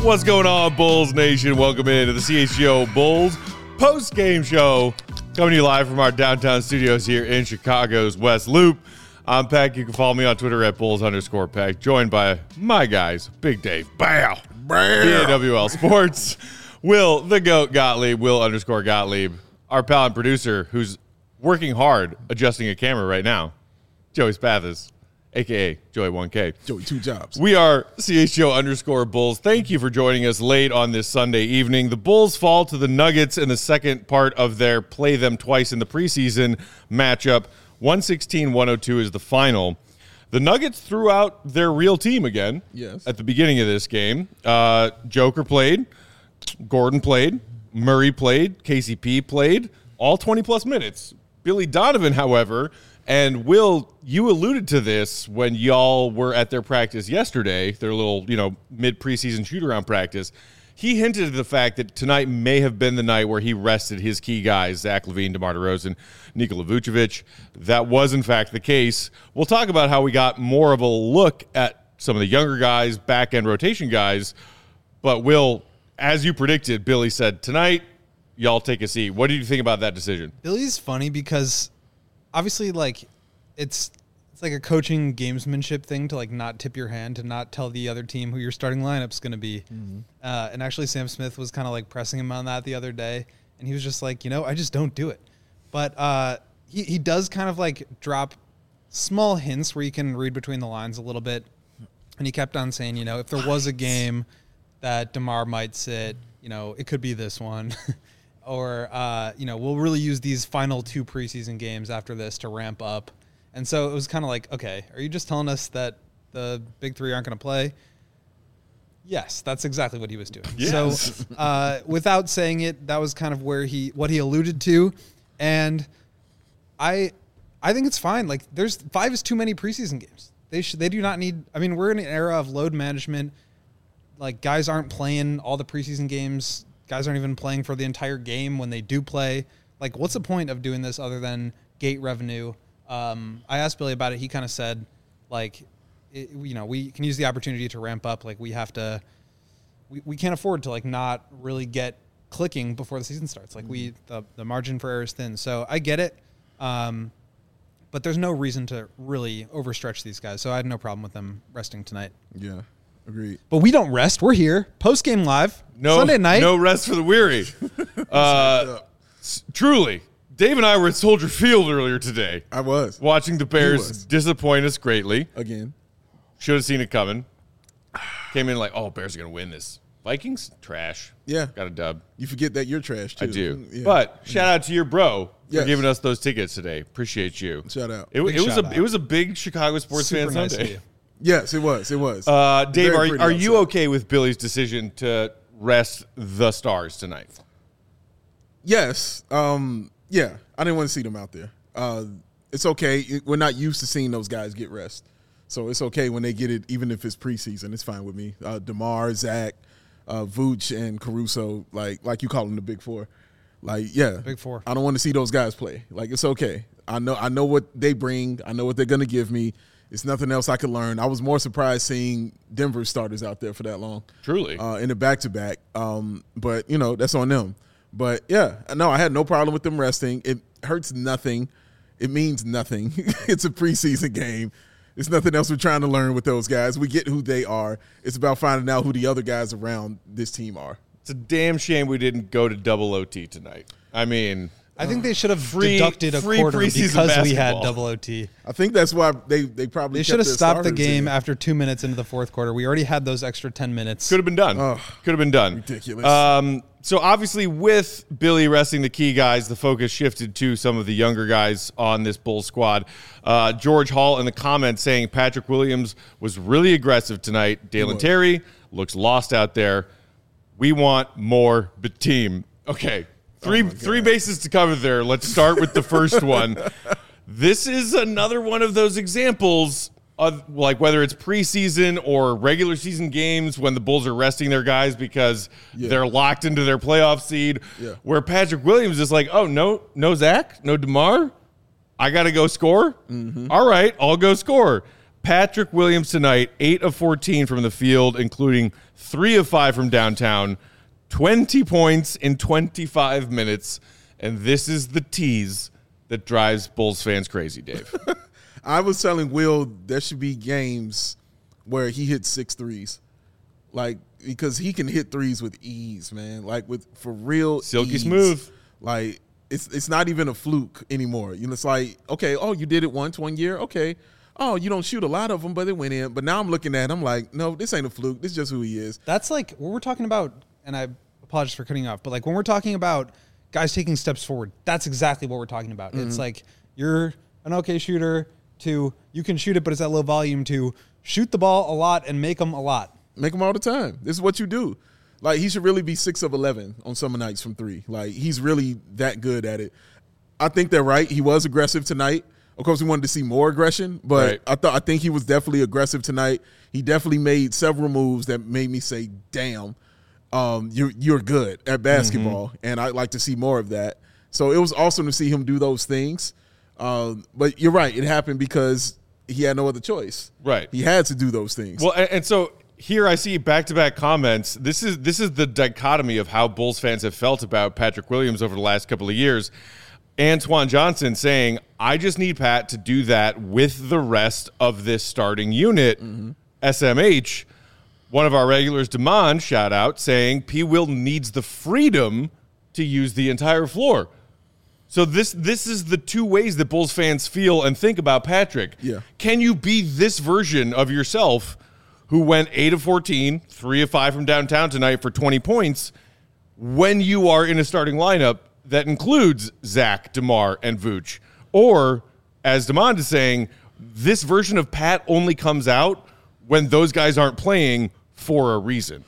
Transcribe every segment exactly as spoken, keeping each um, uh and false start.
What's going on, Bulls Nation? Welcome into the C H G O Bulls post-game show, coming to you live from our downtown studios here in Chicago's West Loop. I'm Peck. You can follow me on Twitter at Bulls underscore Peck, joined by my guys, Big Dave, Bow, B A W L Sports, Will, the GOAT Gottlieb, Will underscore Gottlieb, our pal and producer who's working hard adjusting a camera right now, Joey Spathis, a k a. Joey one K. Joey, two jobs. We are C H G O underscore Bulls. Thank you for joining us late on this Sunday evening. The Bulls fall to the Nuggets in the second part of their play them twice in the preseason matchup. one sixteen one oh two is the final. The Nuggets threw out their real team again yes. at the beginning of this game. Uh, Joker played. Gordon played. Murray played. K C P played. All twenty-plus minutes. Billy Donovan, however, and Will, you alluded to this when y'all were at their practice yesterday, their little, you know, mid-preseason shoot-around practice. He hinted at the fact that tonight may have been the night where he rested his key guys, Zach LaVine, DeMar DeRozan, Nikola Vucevic. That was, in fact, the case. We'll talk about how we got more of a look at some of the younger guys, back-end rotation guys. But, Will, as you predicted, Billy said, tonight, y'all take a seat. What did you think about that decision? Billy's funny because obviously, like, it's it's like a coaching gamesmanship thing to, like, not tip your hand, to not tell the other team who your starting lineup's going to be. Mm-hmm. Uh, and actually, Sam Smith was kind of, like, pressing him on that the other day. And he was just like, you know, I just don't do it. But uh, he, he does kind of, like, drop small hints where you can read between the lines a little bit. And he kept on saying, you know, if there was a game that DeMar might sit, you know, it could be this one. Or, uh, you know, we'll really use these final two preseason games after this to ramp up. And so it was kind of like, okay, are you just telling us that the big three aren't going to play? Yes, that's exactly what he was doing. Yes. So uh, without saying it, that was kind of where he, what he alluded to. And I, I think it's fine. Like, there's five is too many preseason games. They should, they do not need, I mean, we're in an era of load management. Like, guys aren't playing all the preseason games. Guys aren't even playing for the entire game when they do play. Like, what's the point of doing this other than gate revenue? Um, I asked Billy about it. He kind of said, like, it, you know, we can use the opportunity to ramp up. Like, we have to, we, we can't afford to, like, not really get clicking before the season starts. Like, mm-hmm. we, the, the margin for error is thin. So I get it. Um, but there's no reason to really overstretch these guys. So I had no problem with them resting tonight. Yeah. Agreed. But we don't rest. We're here. Post-game live. No, Sunday night. No rest for the weary. uh, s- truly. Dave and I were at Soldier Field earlier today. I was. Watching the Bears disappoint us greatly. Again. Should have seen it coming. Came in like, oh, Bears are going to win this. Vikings? Trash. Yeah. Got a dub. You forget that you're trash, too. I do. Yeah. But shout out to your bro yes. for giving us those tickets today. Appreciate you. Shout out. It, it was a out. it was a big Chicago sports Super fan nice Sunday. Yes, it was. It was. Uh, Dave, Very are, are you outside. okay with Billy's decision to rest the Stars tonight? Yes. Um, yeah. I didn't want to see them out there. Uh, it's okay. It, we're not used to seeing those guys get rest. So it's okay when they get it, even if it's preseason. It's fine with me. Uh, DeMar, Zach, uh, Vooch, and Caruso, like like you call them the Big Four. Like, yeah. Big Four. I don't want to see those guys play. Like, it's okay. I know I know what they bring. I know what they're going to give me. It's nothing else I could learn. I was more surprised seeing Denver starters out there for that long. Truly. Uh, in the back-to-back. Um, but, you know, that's on them. But, yeah, no, I had no problem with them resting. It hurts nothing. It means nothing. It's a preseason game. It's nothing else we're trying to learn with those guys. We get who they are. It's about finding out who the other guys around this team are. It's a damn shame we didn't go to double O T tonight. I mean – I think they should have free, deducted a free quarter because basketball. we had double O T. I think that's why they, they probably They kept should have their stopped the starters game in. after two minutes into the fourth quarter. We already had those extra ten minutes. Could have been done. Oh, Could have been done. ridiculous. Um, so obviously with Billy resting the key guys, the focus shifted to some of the younger guys on this Bulls squad. Uh, George Hall in the comments saying Patrick Williams was really aggressive tonight. Dalen Terry looks lost out there. We want more team. Okay. Three Oh three bases to cover there. Let's start with the first one. This is another one of those examples of, like, whether it's preseason or regular season games when the Bulls are resting their guys because yeah. they're locked into their playoff seed, yeah. where Patrick Williams is like, oh, no, no Zach, no DeMar, I got to go score? Mm-hmm. All right, I'll go score. Patrick Williams tonight, eight of fourteen from the field, including three of five from downtown, twenty points in twenty-five minutes. And this is the tease that drives Bulls fans crazy, Dave. I was telling Will there should be games where he hits six threes. Like, because he can hit threes with ease, man. Like, with for real Silky ease. smooth. Like, it's it's not even a fluke anymore. You know, it's like, okay, oh, you did it once one year. Okay. Oh, you don't shoot a lot of them, but it went in. But now I'm looking at it, I'm like, no, this ain't a fluke. This is just who he is. That's like what we're talking about, and I apologize for cutting you off, but like when we're talking about guys taking steps forward, that's exactly what we're talking about. Mm-hmm. It's like you're an okay shooter to you can shoot it, but it's at low volume to shoot the ball a lot and make them a lot. Make them all the time. This is what you do. Like, he should really be six of eleven on summer nights from three. Like, he's really that good at it. I think they're right. He was aggressive tonight. Of course, we wanted to see more aggression, but right. I thought I think he was definitely aggressive tonight. He definitely made several moves that made me say, damn, um, you're, you're good at basketball, mm-hmm. and I'd like to see more of that. So it was awesome to see him do those things. Um, but you're right. It happened because he had no other choice. Right. He had to do those things. Well, and, and so here I see back-to-back comments. This is this is the dichotomy of how Bulls fans have felt about Patrick Williams over the last couple of years. Antoine Johnson saying, I just need Pat to do that with the rest of this starting unit. Mm-hmm. S M H, one of our regulars, Damon, shout out, saying P. Will needs the freedom to use the entire floor. So this this is the two ways that Bulls fans feel and think about Patrick. Yeah. Can you be this version of yourself who went eight of fourteen, three of five from downtown tonight for twenty points when you are in a starting lineup that includes Zach, DeMar, and Vooch? Or, as Damon is saying, this version of Pat only comes out when those guys aren't playing for a reason.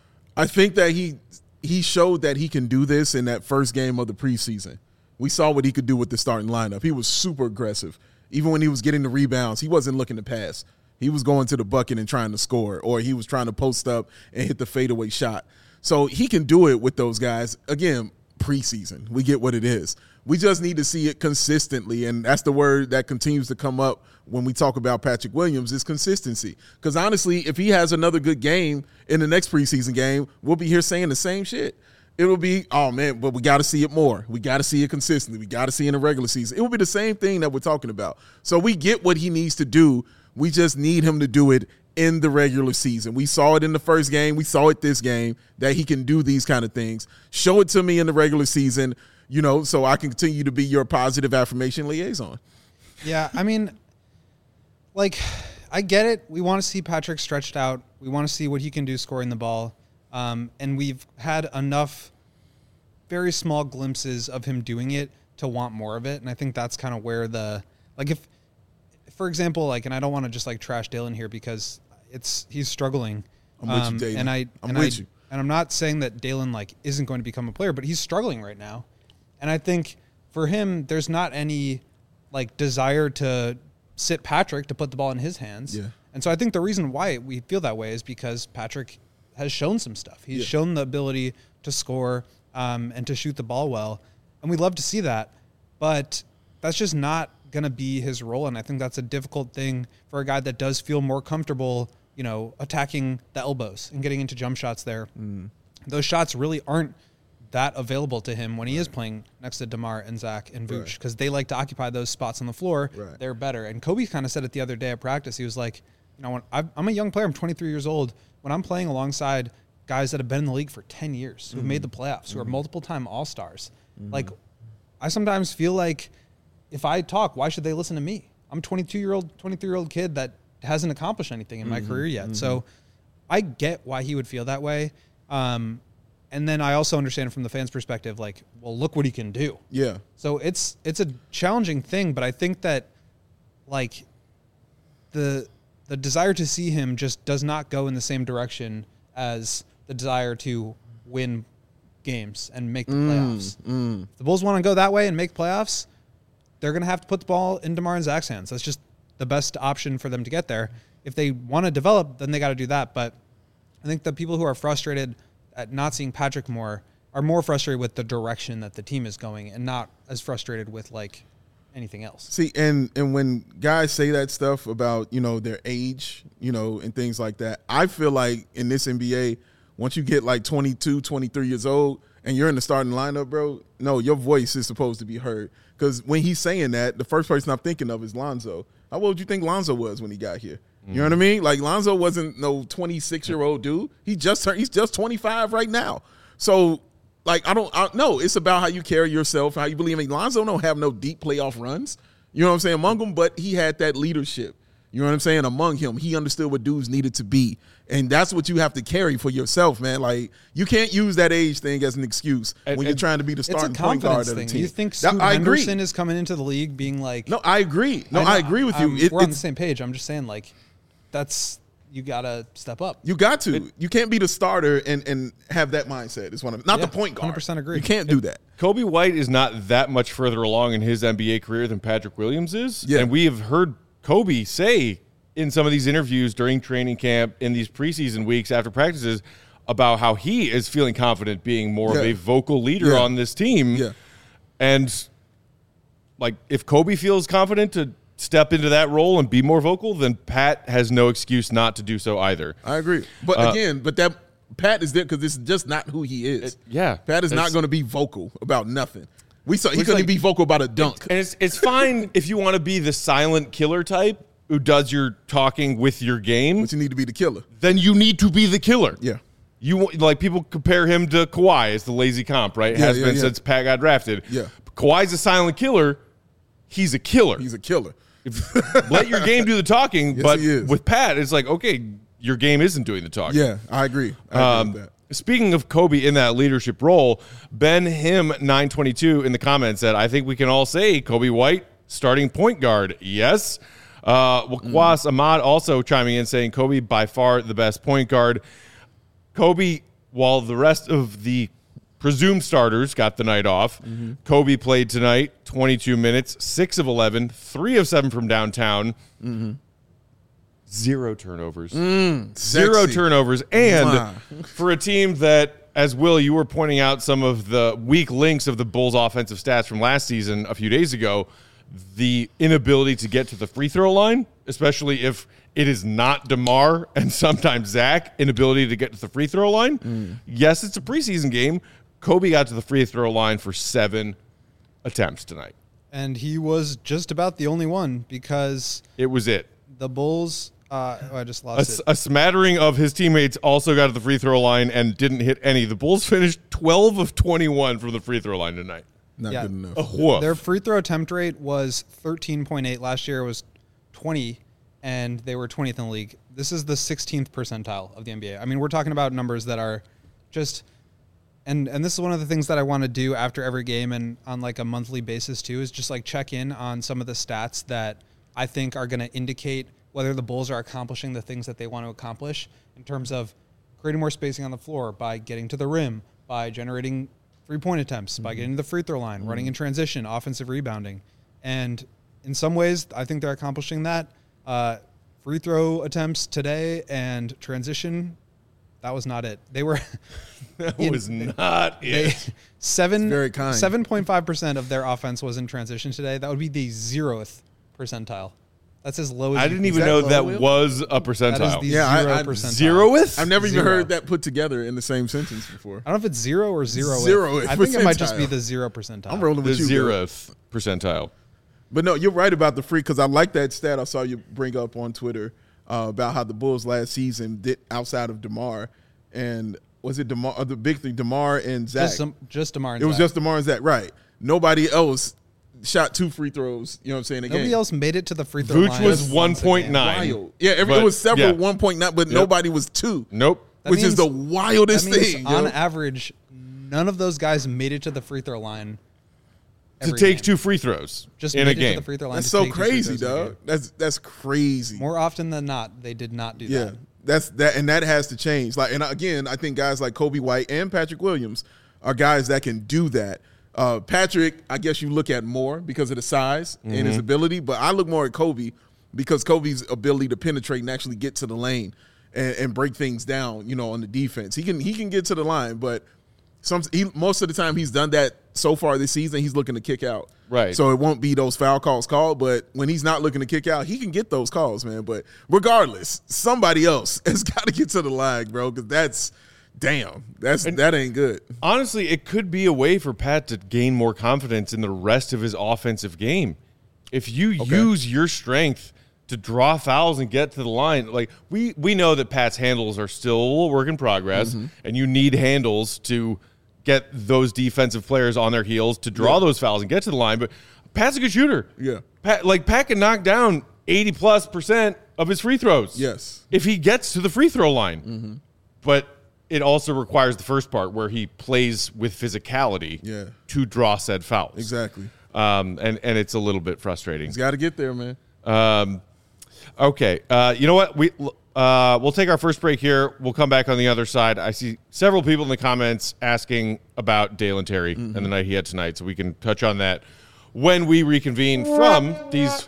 I think that he he showed that he can do this in that first game of the preseason. We saw what he could do with the starting lineup. He was super aggressive. Even when he was getting the rebounds, he wasn't looking to pass. He was going to the bucket and trying to score, or he was trying to post up and hit the fadeaway shot. So he can do it with those guys. Again, preseason. We get what it is. We just need to see it consistently, and that's the word that continues to come up when we talk about Patrick Williams is consistency. Because honestly, if he has another good game in the next preseason game, we'll be here saying the same shit. It will be, oh, man, but we got to see it more. We got to see it consistently. We got to see it in the regular season. It will be the same thing that we're talking about. So we get what he needs to do. We just need him to do it in the regular season. We saw it in the first game. We saw it this game, that he can do these kind of things. Show it to me in the regular season, you know, so I can continue to be your positive affirmation liaison. Yeah, I mean, like, I get it. We want to see Patrick stretched out. We want to see what he can do scoring the ball. Um, and we've had enough very small glimpses of him doing it to want more of it. And I think that's kind of where the, like, if, for example, like, and I don't want to just like trash Dalen here because it's, he's struggling. I'm with um, you, Dalen. And I, I'm and with I, you. And I'm not saying that Dalen like isn't going to become a player, but he's struggling right now. And I think for him, there's not any like desire to sit Patrick to put the ball in his hands. Yeah. And so I think the reason why we feel that way is because Patrick has shown some stuff. He's yeah. shown the ability to score um, and to shoot the ball well. And we love to see that. But that's just not going to be his role. And I think that's a difficult thing for a guy that does feel more comfortable, you know, attacking the elbows and getting into jump shots there. Mm. Those shots really aren't that available to him when he is playing next to DeMar and Zach and Vooch because right. they like to occupy those spots on the floor. Right. They're better. And Kobe kind of said it the other day at practice. He was like, you know, when I'm a young player, I'm twenty-three years old. When I'm playing alongside guys that have been in the league for ten years, who have mm-hmm. made the playoffs, who mm-hmm. are multiple-time All-Stars, mm-hmm. like, I sometimes feel like if I talk, why should they listen to me? I'm a twenty-two-year-old, twenty-three-year-old kid that hasn't accomplished anything in mm-hmm. my career yet. Mm-hmm. So I get why he would feel that way. Um, and then I also understand from the fans' perspective, like, well, look what he can do. Yeah. So it's it's a challenging thing, but I think that, like, the the desire to see him just does not go in the same direction as the desire to win games and make the mm, playoffs. Mm. If the Bulls want to go that way and make playoffs, they're going to have to put the ball in DeMar and Zach's hands. That's just the best option for them to get there. If they want to develop, then they got to do that. But I think the people who are frustrated at not seeing Patrick more are more frustrated with the direction that the team is going and not as frustrated with, like, anything else. See, and and when guys say that stuff about, you know, their age, you know, and things like that, I feel like in this N B A, once you get like twenty-two, twenty-three years old and you're in the starting lineup, bro, no, your voice is supposed to be heard. Because when he's saying that, the first person I'm thinking of is Lonzo. How old do you think Lonzo was when he got here? You know what I mean? Like, Lonzo wasn't no twenty-six-year-old dude. He just turned, he's just twenty-five right now. So, like, I don't I, no, it's about how you carry yourself, how you believe in. Lonzo don't have no deep playoff runs. You know what I'm saying? Among them, but he had that leadership. You know what I'm saying? Among him, he understood what dudes needed to be. And that's what you have to carry for yourself, man. Like, you can't use that age thing as an excuse and, when and you're trying to be the It's starting a point guard confidence of the thing. team. You think That- Scoot I agree. Henderson is coming into the league being like, No, I agree. No, know- I, agree with you. I'm- It- we're on the it's- same page. I'm just saying, like, that's you gotta step up. You got to. You can't be the starter and, and have that mindset. Is one of not Yeah, the point guard. one hundred percent agree. You can't do that. Kobe White is not that much further along in his N B A career than Patrick Williams is. Yeah. And we have heard Kobe say in some of these interviews during training camp, in these preseason weeks after practices, about how he is feeling confident being more of Yeah. a vocal leader Yeah. on this team. Yeah. And, like, if Kobe feels confident to step into that role and be more vocal, then Pat has no excuse not to do so either. I agree. But Uh, again, but that Pat is there because this is just not who he is. It- yeah. Pat is not It's- going to be vocal about nothing. We saw he It's couldn't like- be vocal about a dunk. And it's it's fine if you want to be the silent killer type who does your talking with your game. But you need to be the killer. Then you need to be the killer. Yeah. You want- like people compare him to Kawhi as the lazy comp, right? It Yeah, has yeah, been yeah. since Pat got drafted. Yeah. Kawhi's a silent killer. He's a killer. He's a killer. Let your game do the talking. Yes, but he is. with Pat, it's like, okay, your game isn't doing the talking. Yeah, I agree. I agree Um, with that. Speaking of Kobe in that leadership role, Ben Him nine twenty-two in the comments said, I think we can all say Kobe White, starting point guard. Yes. Uh, Wakwas Ahmad also chiming in saying Kobe by far the best point guard. Kobe, while the rest of the presumed starters got the night off, Kobe played tonight, twenty-two minutes, six of eleven, three of seven from downtown. Zero turnovers. Zero Sexy. turnovers. And Mwah. for a team that, as Will, you were pointing out some of the weak links of the Bulls' offensive stats from last season a few days ago, the inability to get to the free throw line, especially if it is not DeMar and sometimes Zach, inability to get to the free throw line. Yes, it's a preseason game. Kobe got to the free throw line for seven attempts tonight. And he was just about the only one because It was it. the Bulls. Uh, oh, I just A, lost s- it. a smattering of his teammates also got to the free throw line and didn't hit any. The Bulls finished twelve of twenty-one from the free throw line tonight. Not yeah. good enough. A woof. Their free throw attempt rate was thirteen point eight. Last year it was twenty, and they were twentieth in the league. This is the sixteenth percentile of the N B A. I mean, we're talking about numbers that are just and and this is one of the things that I want to do after every game and on like a monthly basis too, is just like check in on some of the stats that I think are going to indicate whether the Bulls are accomplishing the things that they want to accomplish in terms of creating more spacing on the floor by getting to the rim, by generating three-point attempts, mm-hmm. by getting to the free throw line, mm-hmm. running in transition, offensive rebounding. And in some ways, I think they're accomplishing that. Uh, free throw attempts today and transition, that was not it. They were that in, was not they, it. seven very kind. seven point five percent of their offense was in transition today. That would be the zeroth percentile. That's as low as I you didn't can even that know low, that Will? was a That is percentile. the Yeah, I- zero I- percentile. Zeroth? I've never even Zero. heard that put together in the same sentence before. I don't know if it's zero or zero. Zero I think it might just be percentile. the zero percentile. I'm rolling The with you. bro. zeroth percentile. But no, you're right about the free because I like that stat I saw you bring up on Twitter uh, about how the Bulls last season did outside of DeMar. And was it DeMar, uh, the big three, DeMar and Zach? Just, some, just DeMar and it was Zach. just DeMar and Zach, right. Nobody else shot two free throws, you know what I'm saying, a Nobody game. else made it to the free throw Vooch line. was once one a game. point nine. Wild. Yeah, every, But, it was several yeah. one point nine, but nobody was two, Nope. That which is means- the wildest That means thing. on yo. average, none of those guys made it to the free throw line. To every take game. two free throws just in made a it to game. the free throw line. That's to so take two free crazy, throws in a dog. game. That's that's crazy. More often than not, they did not do Yeah, that. that's that, and that has to change. Like, and again, I think guys like Kobe White and Patrick Williams are guys that can do that. Uh, Patrick, I guess you look at more because of the size and Mm-hmm. his ability, but I look more at Kobe because Kobe's ability to penetrate and actually get to the lane and, and break things down. You know, on the defense, he can he can get to the line, but some he most of the time he's done that so far this season, he's looking to kick out. Right. So it won't be those foul calls called, but when he's not looking to kick out, he can get those calls, man. But regardless, somebody else has got to get to the line, bro, because that's damn, that's And- that ain't good. Honestly, it could be a way for Pat to gain more confidence in the rest of his offensive game. If you use your strength to draw fouls and get to the line, like we we know that Pat's handles are still a work in progress, Mm-hmm. and you need handles to get those defensive players on their heels to draw Yeah. those fouls and get to the line. But Pat's a good shooter. Yeah. Pat, like Pat can knock down eighty plus percent of his free throws. Yes. If he gets to the free throw line. Mm-hmm. But it also requires the first part where he plays with physicality Yeah. to draw said fouls. Exactly. Um, and, and it's a little bit frustrating. He's got to get there, man. Um, okay. Uh, you know what? We, uh, we'll take our first break here. We'll come back on the other side. I see several people in the comments asking about Dalen Terry Mm-hmm. and the night he had tonight, so we can touch on that when we reconvene from these.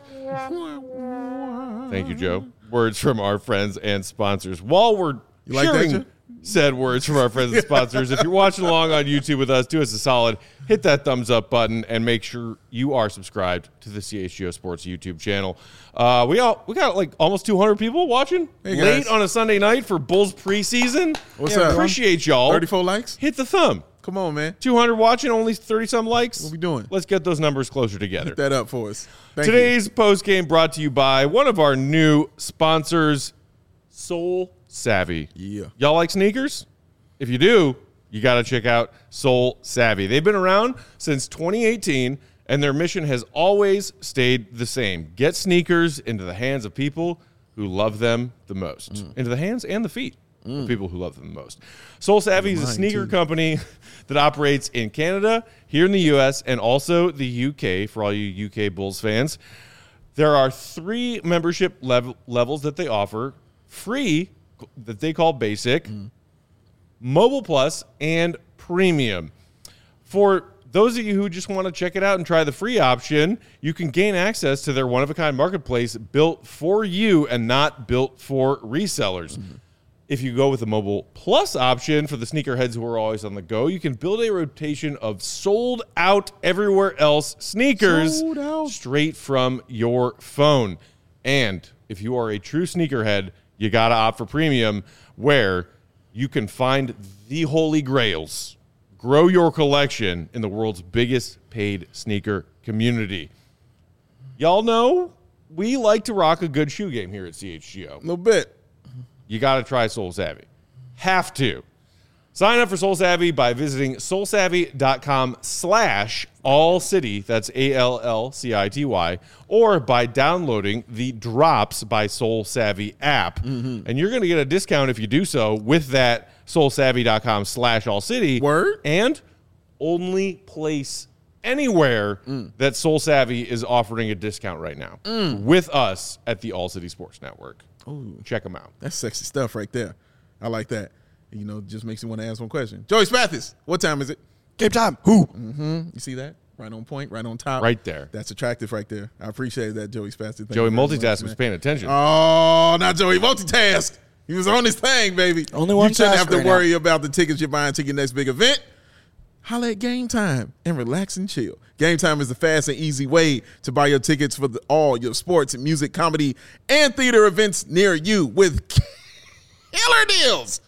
Thank you, Joe. Words from our friends and sponsors. While we're You like that, sharing Joe? said words from our friends and sponsors, if you're watching along on YouTube with us, do us a solid, hit that thumbs up button, and make sure you are subscribed to the C H G O Sports YouTube channel. Uh, we all we got like almost two hundred people watching Hey, late guys. on a Sunday night for Bulls preseason. What's Yeah, up? Appreciate y'all. thirty-four likes? Hit the thumb. Come on, man. two hundred watching, only thirty some likes. What we doing? Let's get those numbers closer together. Hit that up for us. Thank you. Today's post game brought to you by one of our new sponsors, Soul Savvy. Yeah. Y'all like sneakers? If you do, you got to check out Soul Savvy. They've been around since twenty eighteen, and their mission has always stayed the same. Get sneakers into the hands of people who love them the most. Mm. Into the hands and the feet of people who love them the most. Soul Savvy is a Mine, sneaker too. company that operates in Canada, here in the U S, and also the U K for all you U K Bulls fans. There are three membership level, levels that they offer: free, that they call basic, Mobile Plus, and Premium. For those of you who just want to check it out and try the free option, you can gain access to their one-of-a-kind marketplace built for you and not built for resellers. If you go with the Mobile Plus option for the sneakerheads who are always on the go, you can build a rotation of sold out everywhere else sneakers Sold out. straight from your phone. And if you are a true sneakerhead, you got to opt for Premium, where you can find the holy grails. Grow your collection in the world's biggest paid sneaker community. Y'all know we like to rock a good shoe game here at C H G O. A little bit. You got to try Soul Savvy. Have to. Sign up for Soul Savvy by visiting soulsavvy.com slash all city. That's A L L C I T Y. Or by downloading the Drops by Soul Savvy app. And you're going to get a discount if you do so with that soulsavvy.com slash all city. Word. And only place anywhere that Soul Savvy is offering a discount right now with us at the All City Sports Network. Ooh, Check them out. that's sexy stuff right there. I like that. You know, just makes me want to ask one question. Joey Spathis, what time is it? Game time. Who? You see that? Right on point, right on top. Right there. That's attractive right there. I appreciate that, Joey Spathis. Thank Joey you very much, multitask was man. paying attention. Oh, not Joey multitask. He was on his thing, baby. Only one You shouldn't task have to right worry about the tickets you're buying to your next big event. Holla at Game Time and relax and chill. Game Time is the fast and easy way to buy your tickets for the, all your sports and music, comedy, and theater events near you with killer deals.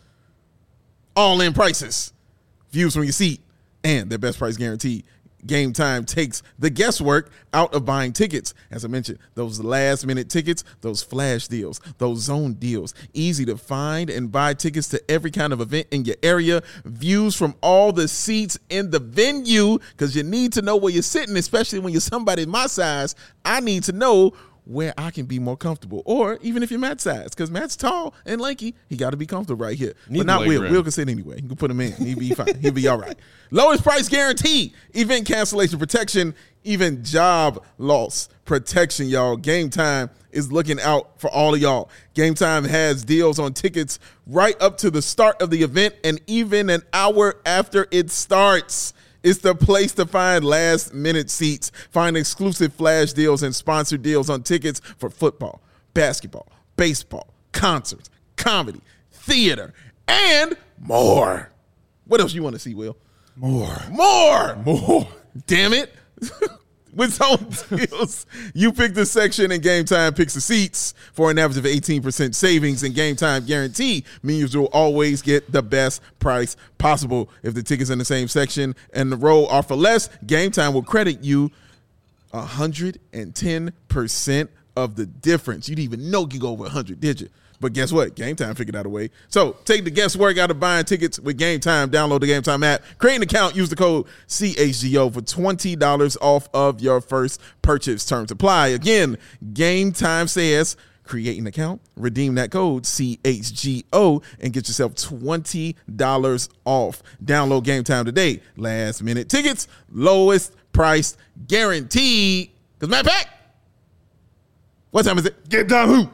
All in prices, views from your seat, and their best price guaranteed. Game Time takes the guesswork out of buying tickets. As I mentioned, those last minute tickets, those flash deals, those zone deals, easy to find and buy tickets to every kind of event in your area, views from all the seats in the venue, because you need to know where you're sitting, especially when you're somebody my size. I need to know where I can be more comfortable, or even if you're Matt's size, because Matt's tall and lanky, he got to be comfortable right here. Need but not leg Will. room. Will can sit anyway. You can put him in. He'll be fine. He'll be all right. Lowest price guarantee, event cancellation protection, even job loss protection, y'all. Game Time is looking out for all of y'all. Game Time has deals on tickets right up to the start of the event and even an hour after it starts. It's the place to find last-minute seats. Find exclusive flash deals and sponsored deals on tickets for football, basketball, baseball, concerts, comedy, theater, and more. What else you want to see, Will? More. More. More. Damn it. With Zone Deals, you pick the section and Game Time picks the seats for an average of eighteen percent savings, and Game Time guarantee means you'll always get the best price possible. If the ticket's in the same section and the row are for less, Game Time will credit you one hundred ten percent of the difference. You didn't even know you could go over one hundred, did you? But guess what? Game Time figured out a way. So take the guesswork out of buying tickets with Game Time. Download the Game Time app. Create an account. Use the code C H G O for twenty dollars off of your first purchase. Terms apply. Again, Game Time says create an account, redeem that code C H G O, and get yourself twenty dollars off. Download Game Time today. Last minute tickets, lowest price guaranteed. Because matter of fact, what time is it? Game Time who?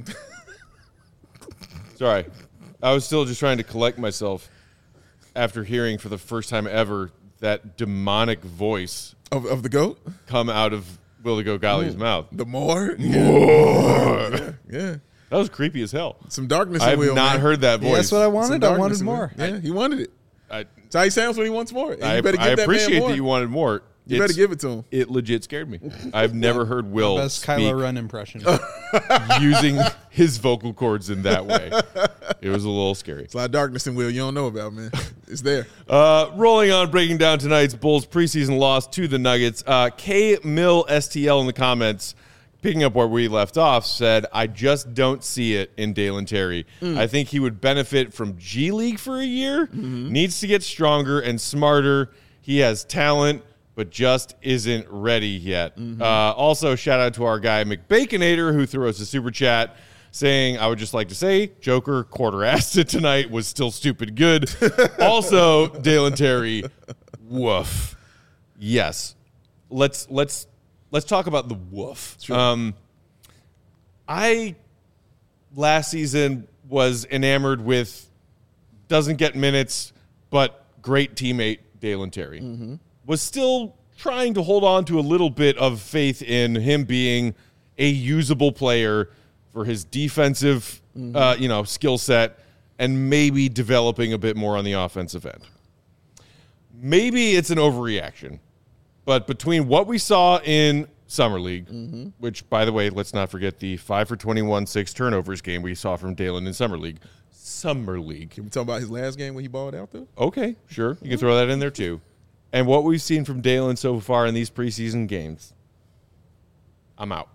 Sorry. I was still just trying to collect myself after hearing for the first time ever that demonic voice Of, of the GOAT? come out of Will the Go Golly's mouth. The more? More. Yeah, yeah. That was creepy as hell. Some darkness I in have Will, not man. heard that Yeah, voice. that's what I Some wanted. I darkness wanted in Will. more. Yeah, he wanted it. I, That's how he sounds when he wants more. And I, you better I give that man appreciate more. that you wanted more. You better It's- give it to him. It legit scared me. I've never heard Will Best speak Kylo Ren impression. using his vocal cords in that way. It was a little scary. It's a lot of darkness in Will you don't know about, man. It's there. Uh, rolling on, breaking down tonight's Bulls preseason loss to the Nuggets. Uh, K Mill S T L in the comments, picking up where we left off, said, I just don't see it in Dalen Terry. Mm. I think he would benefit from G League for a year. Mm-hmm. Needs to get stronger and smarter. He has talent, but just isn't ready yet. Mm-hmm. Uh, also, shout out to our guy McBaconator, who threw us a super chat saying, I would just like to say, Joker quarter-assed it tonight, was still stupid good. Also, Dalen Terry, woof. Yes. Let's let's let's talk about the woof. Sure. Um, I last season was enamored with doesn't get minutes, but great teammate Dalen Terry. Mm-hmm. Was still trying to hold on to a little bit of faith in him being a usable player for his defensive, Mm-hmm. uh, you know, skill set, and maybe developing a bit more on the offensive end. Maybe it's an overreaction, but between what we saw in Summer League, Mm-hmm. which, by the way, let's not forget the five for twenty-one, six turnovers game we saw from Dalen in Summer League. Summer League. Can we talk about his last game when he balled out, though? Okay, sure. You can throw that in there, too. And what we've seen from Dalen so far in these preseason games, I'm out.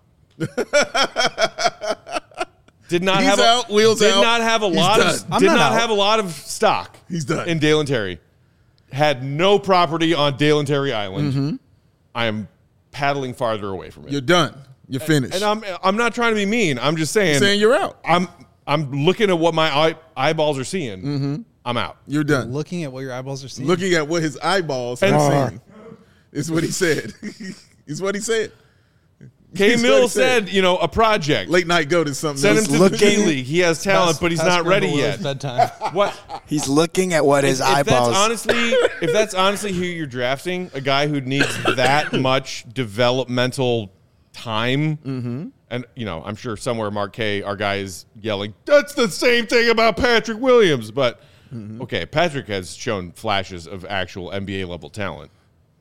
Did not He's have a, out, Will's did out. not have a He's lot done. of I'm did not not out. have a lot of stock. He's done. In Dalen Terry. Had no property on Dalen Terry Island. Mm-hmm. I am paddling farther away from it. You're done. You're finished. and I'm I'm not trying to be mean. I'm just saying saying you're out. I'm I'm looking at what my eye, eyeballs are seeing. Mm-hmm. I'm out. You're done. Looking at what your eyeballs are seeing. Looking at what his eyeballs And- are seeing is what he said. Is what he said. K That's what Mill he said, said. you know, a project. Late night goat is something Send him else. to look- the G League. He has talent, Past- but he's past not ready Grandma Will's yet. Bedtime. What? He's looking at what his if eyeballs. that's honestly, if that's honestly who you're drafting, a guy who needs that much developmental time, Mm-hmm. and you know, I'm sure somewhere Mark K, our guy, is yelling, "That's the same thing about Patrick Williams." But Mm-hmm. okay, Patrick has shown flashes of actual N B A level talent.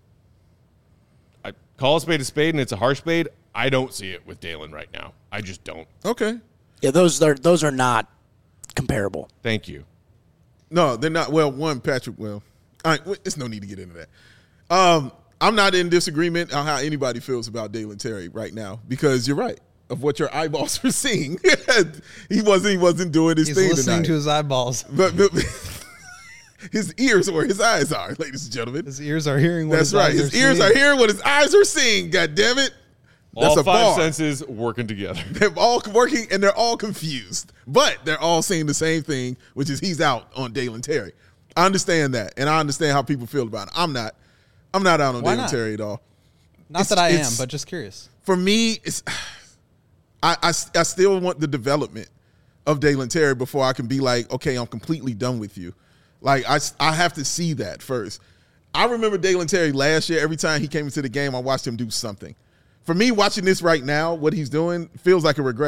I call a spade a spade, and it's a harsh spade. I don't see it with Dalen right now. I just don't. Okay. yeah, those are those are not comparable. Thank you. No, they're not. Well, one, Patrick, well, all right, there's no need to get into that. Um, I'm not in disagreement on how anybody feels about Dalen Terry right now because you're right. Of what your eyeballs are seeing. he wasn't he wasn't doing his He's thing listening tonight. to his eyeballs. but, but his ears are where his eyes are, ladies and gentlemen. His ears are hearing what That's his right. eyes His are ears seeing. are hearing what his eyes are seeing. God damn it. That's All a five bar. senses working together. They're all working and they're all confused, but they're all saying the same thing, which is he's out on Dalen Terry. I understand that, and I understand how people feel about it. I'm not. I'm not out on Why Dalen not? Terry at all. Not It's- that I am, it's- but just curious. For me, it's I, I, I still want the development of Dalen Terry before I can be like, okay, I'm completely done with you. Like, I, I have to see that first. I remember Dalen Terry last year. Every time he came into the game, I watched him do something. For me, watching this right now, what he's doing feels like a regression.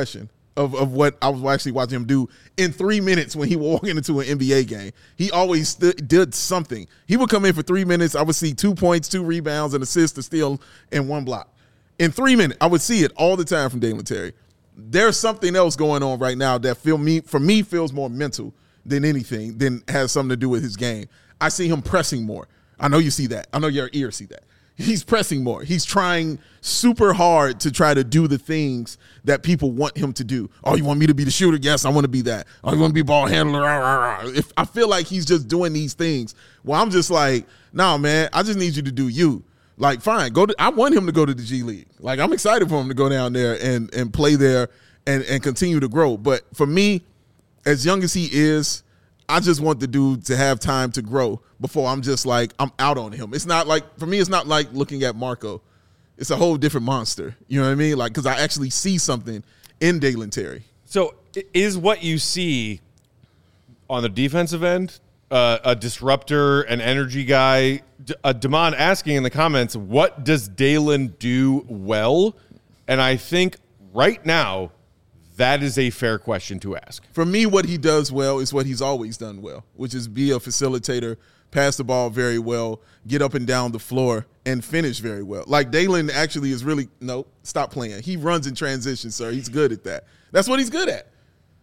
of, of what I was actually watching him do in three minutes when he was walking into an N B A game. He always st- did something. He would come in for three minutes. I would see two points, two rebounds, an assist, a steal, and one block. In three minutes, I would see it all the time from Dalen Terry. There's something else going on right now that feel me for me feels more mental than anything, than has something to do with his game. I see him pressing more. I know you see that. I know your ears see that. He's pressing more. He's trying super hard to try to do the things that people want him to do. Oh, you want me to be the shooter? Yes, I want to be that. Oh, you want to be ball handler? If I feel like he's just doing these things, well, I'm just like, no, man, I just need you to do you. Like, fine, go to. I want him to go to the G League. Like, I'm excited for him to go down there and and play there and and continue to grow. But for me, as young as he is, I just want the dude to have time to grow before I'm just like, I'm out on him. It's not like, for me, it's not like looking at Marco. It's a whole different monster. You know what I mean? Like, because I actually see something in Dalen Terry. So is what you see on the defensive end uh, a disruptor, an energy guy? D- uh, Damon asking in the comments, what does Dalen do well? And I think right now, that is a fair question to ask. For me, what he does well is what he's always done well, which is be a facilitator, pass the ball very well, get up and down the floor, and finish very well. Like, Dalen actually is really – no, stop playing. He runs in transition, sir. He's good at that. That's what he's good at.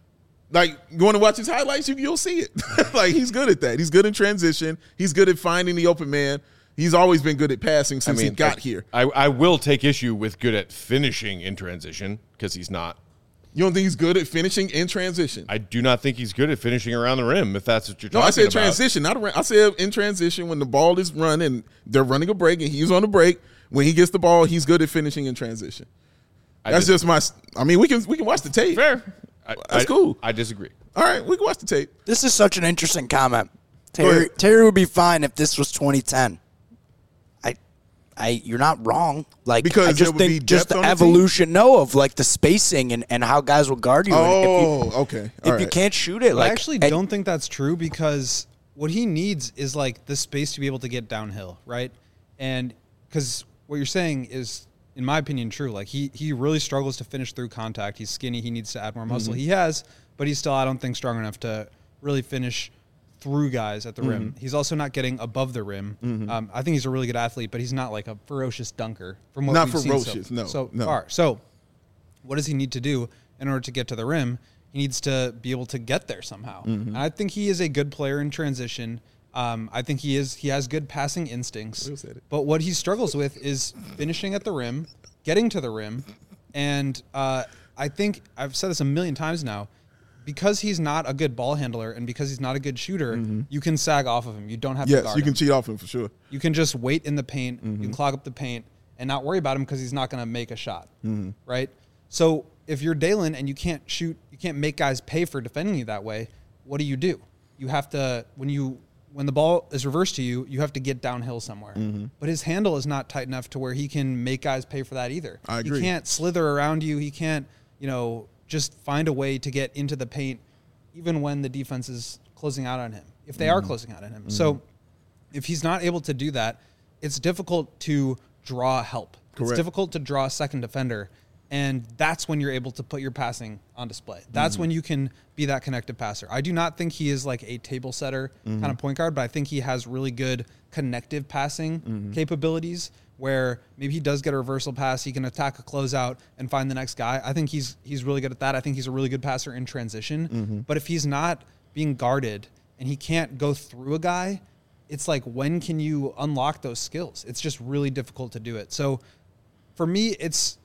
Like, you want to watch his highlights, you, you'll see it. Like, he's good at that. He's good in transition. He's good at finding the open man. He's always been good at passing since I mean, he got I, here. I, I will take issue with good at finishing in transition because he's not. You don't think he's good at finishing in transition? I do not think he's good at finishing around the rim, if that's what you're no, talking about. No, I said transition, not around. I said in transition when the ball is run and they're running a break and he's on the break. When he gets the ball, he's good at finishing in transition. I That's dis- just my – I mean, we can we can watch the tape. Fair. I, That's I, cool. I disagree. All right, we can watch the tape. This is such an interesting comment. Terry, Terry would be fine if this was twenty ten. I, I, you're not wrong. Like, because I just think just the evolution, no, of like the spacing and, and how guys will guard you. Oh, and if you, okay. All if right. you can't shoot it, like I actually and, don't think that's true because what he needs is like the space to be able to get downhill, right? And because what you're saying is, in my opinion, true. Like he he really struggles to finish through contact. He's skinny. He needs to add more muscle. Mm-hmm. He has, but he's still, I don't think, strong enough to really finish through guys at the mm-hmm. rim. He's also not getting above the rim. Mm-hmm. Um, I think he's a really good athlete, but he's not like a ferocious dunker from what not we've ferocious, seen so, no, so no. far. So what does he need to do in order to get to the rim? He needs to be able to get there somehow. Mm-hmm. And I think he is a good player in transition. Um, I think he is. He has good passing instincts. But what he struggles with is finishing at the rim, getting to the rim, and uh, I think I've said this a million times now. Because he's not a good ball handler and because he's not a good shooter, mm-hmm. you can sag off of him. You don't have yes, to guard him. Yes, you can him. cheat off him for sure. You can just wait in the paint. Mm-hmm. You can clog up the paint and not worry about him because he's not going to make a shot, mm-hmm. right? So if you're Dalen and you can't shoot, you can't make guys pay for defending you that way, what do you do? You have to, when you when the ball is reversed to you, you have to get downhill somewhere. Mm-hmm. But his handle is not tight enough to where he can make guys pay for that either. I agree. He can't slither around you. He can't, you know, just find a way to get into the paint even when the defense is closing out on him, if they mm-hmm. are closing out on him. Mm-hmm. So if he's not able to do that, it's difficult to draw help. Correct. It's difficult to draw a second defender, and that's when you're able to put your passing on display. That's mm-hmm. when you can be that connective passer. I do not think he is like a table setter mm-hmm. kind of point guard, but I think he has really good connective passing mm-hmm. capabilities where maybe he does get a reversal pass, he can attack a closeout and find the next guy. I think he's he's really good at that. I think he's a really good passer in transition. Mm-hmm. But if he's not being guarded and he can't go through a guy, it's like, when can you unlock those skills? It's just really difficult to do it. So for me, it's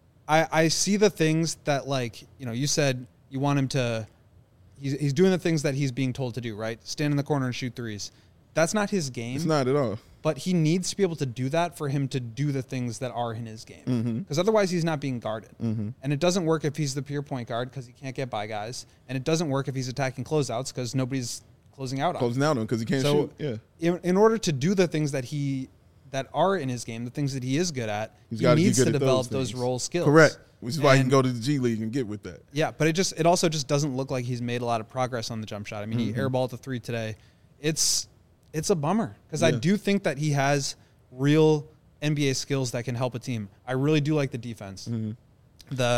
I, I see the things that, like, you know, you said you want him to he's he's doing the things that he's being told to do, right? Stand in the corner and shoot threes. That's not his game. It's not at all. But he needs to be able to do that for him to do the things that are in his game. Because mm-hmm. otherwise he's not being guarded. Mm-hmm. And it doesn't work if he's the pure point guard because he can't get by guys. And it doesn't work if he's attacking closeouts because nobody's closing out on him. Closing out on him because he can't so shoot. Yeah. In, in order to do the things that he that are in his game, the things that he is good at, he's he needs to develop those, those role skills. Correct. Which is why and, he can go to the G League and get with that. Yeah, but it just it also just doesn't look like he's made a lot of progress on the jump shot. I mean, mm-hmm. he airballed the three today. It's it's a bummer because yeah. I do think that he has real N B A skills that can help a team. I really do like the defense. Mm-hmm. The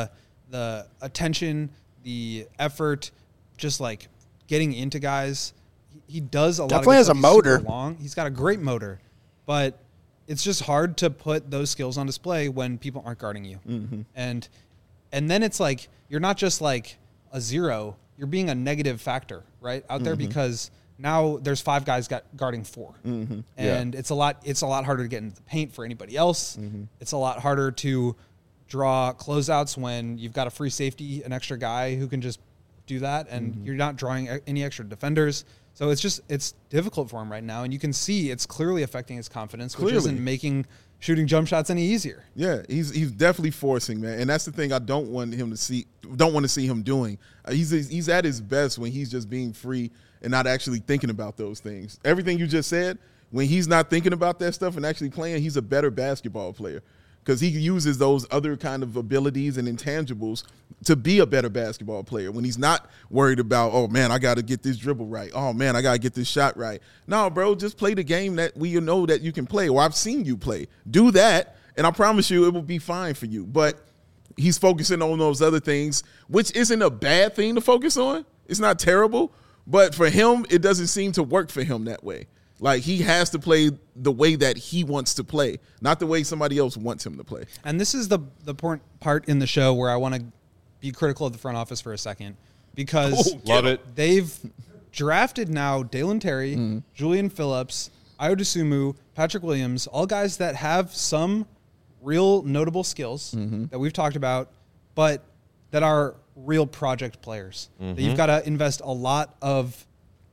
the attention, the effort, just like getting into guys. He, he does a Definitely lot of has a He's super motor. long. He's got a great motor, but it's just hard to put those skills on display when people aren't guarding you. Mm-hmm. And and then it's like you're not just like a zero, you're being a negative factor, right? Out there Mm-hmm. because now there's five guys got guarding four. Mm-hmm. And it's a lot it's a lot harder to get into the paint for anybody else. Mm-hmm. It's a lot harder to draw closeouts when you've got a free safety, an extra guy who can just do that, and Mm-hmm. you're not drawing e- any extra defenders. So it's just it's difficult for him right now, and you can see it's clearly affecting his confidence, which Clearly. isn't making shooting jump shots any easier. Yeah, he's he's definitely forcing, man, and that's the thing I don't want him to see. Don't want to see him doing. Uh, he's he's at his best when he's just being free and not actually thinking about those things. Everything you just said, when he's not thinking about that stuff and actually playing, he's a better basketball player because he uses those other kind of abilities and intangibles to be a better basketball player. When he's not worried about, oh man, I got to get this dribble right. Oh man, I got to get this shot right. No, bro, just play the game that we know that you can play, or I've seen you play. Do that, and I promise you it will be fine for you. But he's focusing on those other things, which isn't a bad thing to focus on. It's not terrible, but for him, it doesn't seem to work for him that way. Like, he has to play the way that he wants to play, not the way somebody else wants him to play. And this is the the point, part in the show where I want to be critical of the front office for a second, because Oh, love it. they've drafted now Dalen Terry, Mm-hmm. Julian Phillips, Ayo Dosunmu, Patrick Williams, all guys that have some real notable skills Mm-hmm. that we've talked about, but that are real project players that you've got to invest a lot of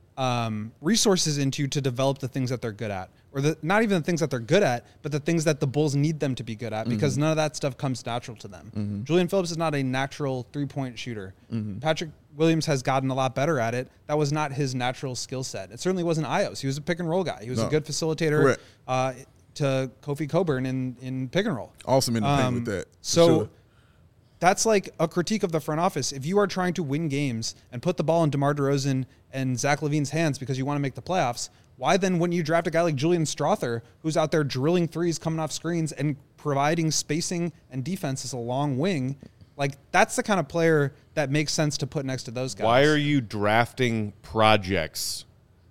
um, resources into to develop the things that they're good at, or the, not even the things that they're good at, but the things that the Bulls need them to be good at, because none of that stuff comes natural to them. Julian Phillips is not a natural three-point shooter. Patrick Williams has gotten a lot better at it. That was not his natural skill set. It certainly wasn't Ayo's. He was a pick and roll guy. He was No. a good facilitator Correct. uh, to Kofi Coburn in, in pick and roll. Awesome in the paint Um, with that. for So sure. that's like a critique of the front office. If you are trying to win games and put the ball in DeMar DeRozan and Zach LaVine's hands because you want to make the playoffs, why then wouldn't you draft a guy like Julian Strother, who's out there drilling threes, coming off screens, and providing spacing and defense as a long wing? Like, that's the kind of player that makes sense to put next to those guys. Why are you drafting projects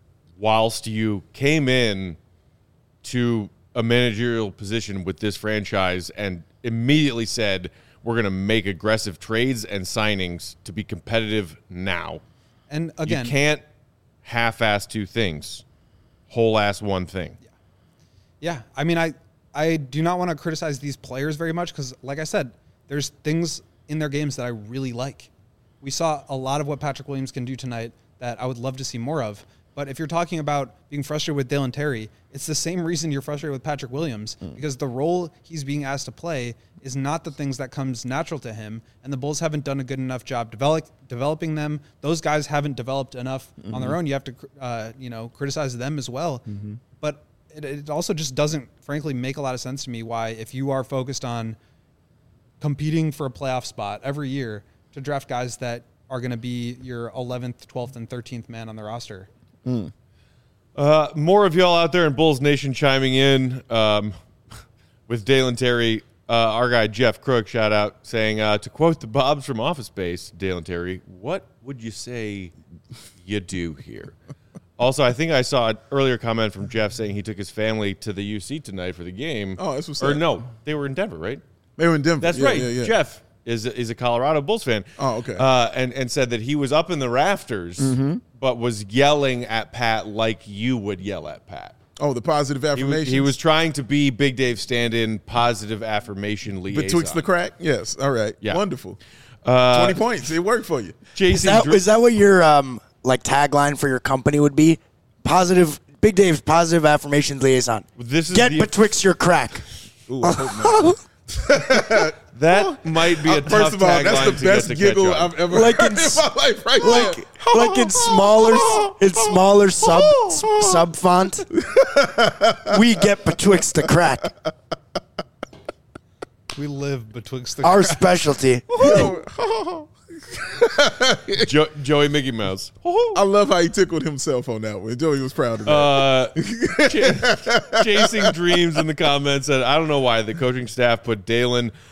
whilst you came in to a managerial position with this franchise and immediately said, we're going to make aggressive trades and signings to be competitive now? And again, you can't half-ass two things, whole-ass one thing. Yeah, I mean, I I do not want to criticize these players very much because, like I said, there's things in their games that I really like. We saw a lot of what Patrick Williams can do tonight that I would love to see more of. But if you're talking about being frustrated with Dalen Terry, it's the same reason you're frustrated with Patrick Williams, because the role he's being asked to play is not the things that comes natural to him, and the Bulls haven't done a good enough job develop, developing them. Those guys haven't developed enough on their own. You have to, uh, you know, criticize them as well. But it, it also just doesn't, frankly, make a lot of sense to me why, if you are focused on competing for a playoff spot every year, to draft guys that are going to be your eleventh, twelfth, and thirteenth man on the roster. Uh, more of y'all out there in Bulls Nation chiming in um, with Dalen Terry. Uh, our guy Jeff Crook, shout out, saying, uh, to quote the Bobs from Office Space, Dalen Terry, what would you say you do here? Also, I think I saw an earlier comment from Jeff saying he took his family to the U C tonight for the game. Oh, that's what's Or up. no, they were in Denver, right? They were in Denver. That's Yeah, right. yeah, yeah. Jeff is is a Colorado Bulls fan. Oh, okay. Uh, and and said that he was up in the rafters, Mm-hmm. but was yelling at Pat like you would yell at Pat. Oh, the positive He was, affirmation. he was trying to be Big Dave stand-in, positive affirmation liaison. betwixt the crack. Yes. All right. Yeah. Wonderful. Uh, Twenty points. It worked for you. Is Jason, that, Dr- is that what your um, like tagline for your company would be? Positive, Big Dave's positive affirmations liaison. This is Get the- betwixt your crack. Ooh, I hope not. that might be a Uh, tough First of all, tagline that's the to best get to catch giggle on. I've ever Like heard in in s- my life. Right like there. like in smaller in smaller sub sub font. We get betwixt the crack. We live betwixt the Our specialty. Jo- Joey Mickey Mouse. I love how he tickled himself on that one. Joey was proud of that. Uh, ch- chasing dreams in the comments said, I don't know why the coaching staff put Dalen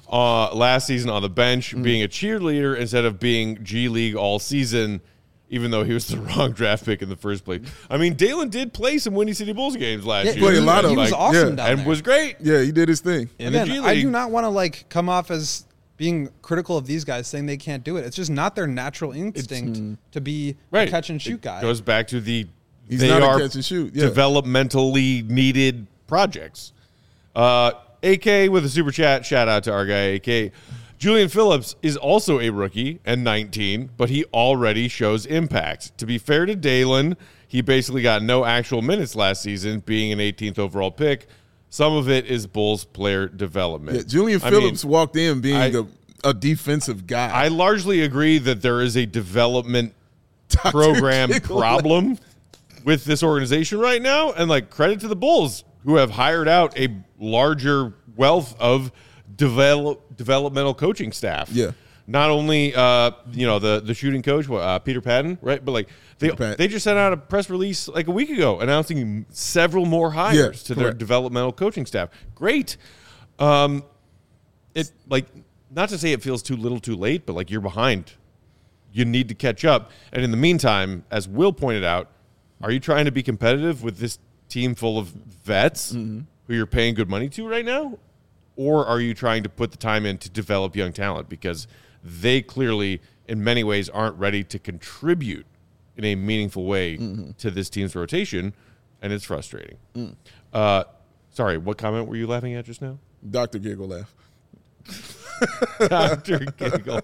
uh, last season on the bench, mm. being a cheerleader instead of being G League all season, even though he was the wrong draft pick in the first place. I mean, Dalen did play some Windy City Bulls games last yeah, year. Played a lot of He was like, awesome yeah. down and there. was great. Yeah, he did his thing. In the Again, G I League. do not want to like come off as being critical of these guys saying they can't do it. It's just not their natural instinct to be Right. a catch and shoot It guy. goes back to the He's they not a are catch and shoot, yeah. developmentally needed projects. Uh, A K with a super chat. Shout out to our guy A K. Julian Phillips is also a rookie and nineteen, but he already shows impact. To be fair to Dalen, he basically got no actual minutes last season, being an eighteenth overall pick. Some of it is Bulls player development. Yeah, Julian I Phillips mean, walked in being I- a, a defensive guy. I largely agree that there is a development program Giggle. problem with this organization right now, and like credit to the Bulls who have hired out a larger wealth of develop, developmental coaching staff. Yeah. Not only uh, you know the the shooting coach uh, Peter Patton, right? But like they Pat. they just sent out a press release like a week ago announcing several more hires Yeah, to their correct. developmental coaching staff. Great. Um, it like not to say it feels too little, too late, but like you're behind. You need to catch up. And in the meantime, as Will pointed out, are you trying to be competitive with this team full of vets Mm-hmm. who you're paying good money to right now? Or are you trying to put the time in to develop young talent? Because they clearly, in many ways, aren't ready to contribute in a meaningful way Mm-hmm. to this team's rotation, and it's frustrating. Mm. Uh, sorry, what comment were you laughing at just now? Doctor Giggle laugh. Doctor Giggle.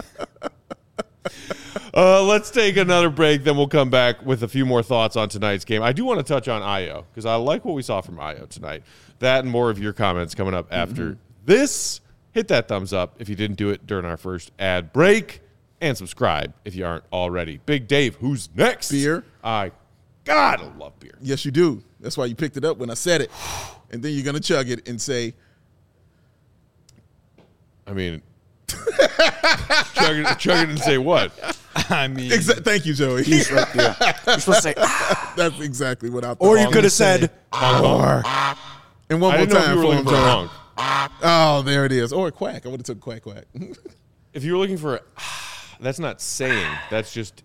Uh, let's take another break, then we'll come back with a few more thoughts on tonight's game. I do want to touch on Io because I like what we saw from Io tonight. That and more of your comments coming up after Mm-hmm. this. Hit that thumbs up if you didn't do it during our first ad break, and subscribe if you aren't already. Big Dave, who's next? Beer. I gotta love beer. Yes, you do. That's why you picked it up when I said it. And then you're going to chug it and say, I mean, chug it, chug it and say what? I mean, Exa- thank you, Joey. He's right there. You're supposed to say, ah, That's exactly what I thought. or you Honk. could have said, or. And one I more didn't know if time you were for looking him, for a Joey. honk. Oh, there it is. Or a quack. I would have took quack quack. If you were looking for a, that's not saying. That's just,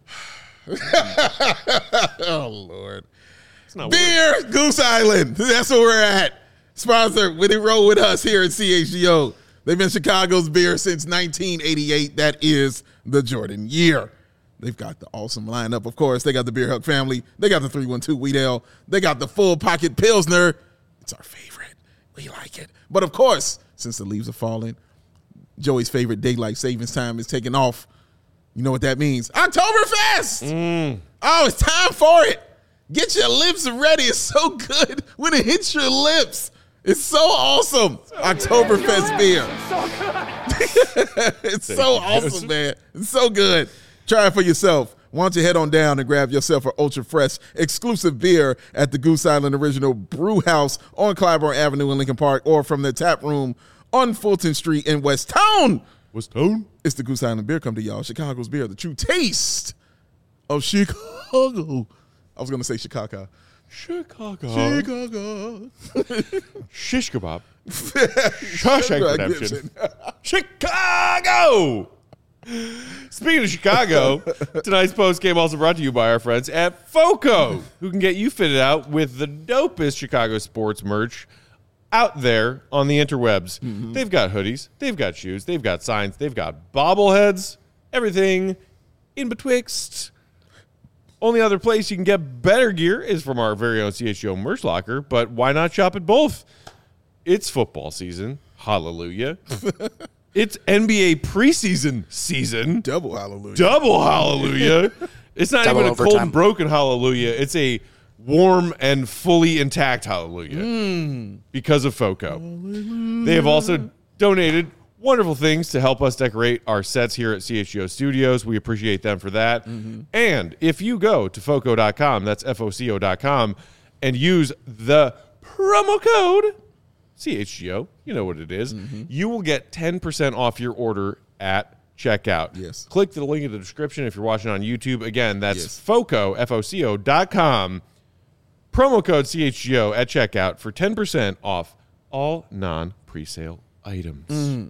Oh, Lord. it's not Beer, Goose Island. That's where we're at. Sponsored with it, roll with us here at C H G O. They've been Chicago's beer since nineteen eighty-eight. That is the Jordan year. They've got the awesome lineup, of course. They got the Beer Hug family. They got the three one two Wheat Ale. They got the full pocket Pilsner. It's our favorite. We like it. But, of course, since the leaves are falling, Joey's favorite daylight savings time is taking off. You know what that means? Oktoberfest! Oh, it's time for it. Get your lips ready. It's so good when it hits your lips. It's so awesome. Oktoberfest beer. It's so awesome, man. It's so good. Try it for yourself. Why don't you head on down and grab yourself an ultra fresh exclusive beer at the Goose Island Original Brew House on Clybourne Avenue in Lincoln Park, or from the tap room on Fulton Street in West Town. What's tone? It's the Goose Island Beer Come to y'all. Chicago's beer, the true taste of Chicago. I was going to say Chicago. Chicago. Chicago. Shish kebab. Shawshank Right, Redemption. Gibson. Chicago. Speaking of Chicago, tonight's post game also brought to you by our friends at FOCO, who can get you fitted out with the dopest Chicago sports merch out there on the interwebs. Mm-hmm. They've got hoodies, they've got shoes, they've got signs, they've got bobbleheads, everything in betwixt. Only other place you can get better gear is from our very own C H G O merch locker, but why not shop at both? It's football season. Hallelujah. It's N B A preseason season. Double hallelujah. Double hallelujah. It's not Double even a cold overtime. and broken hallelujah. It's a warm and fully intact hallelujah because of FOCO. They have also donated wonderful things to help us decorate our sets here at C H G O Studios. We appreciate them for that. And if you go to foco dot com, that's F O C O dot com, and use the promo code C H G O, you know what it is, you will get ten percent off your order at checkout. Yes. Click the link in the description if you're watching on YouTube. Again, that's Yes. FOCO, F O C O dot com. Promo code C H G O at checkout for ten percent off all non-presale items.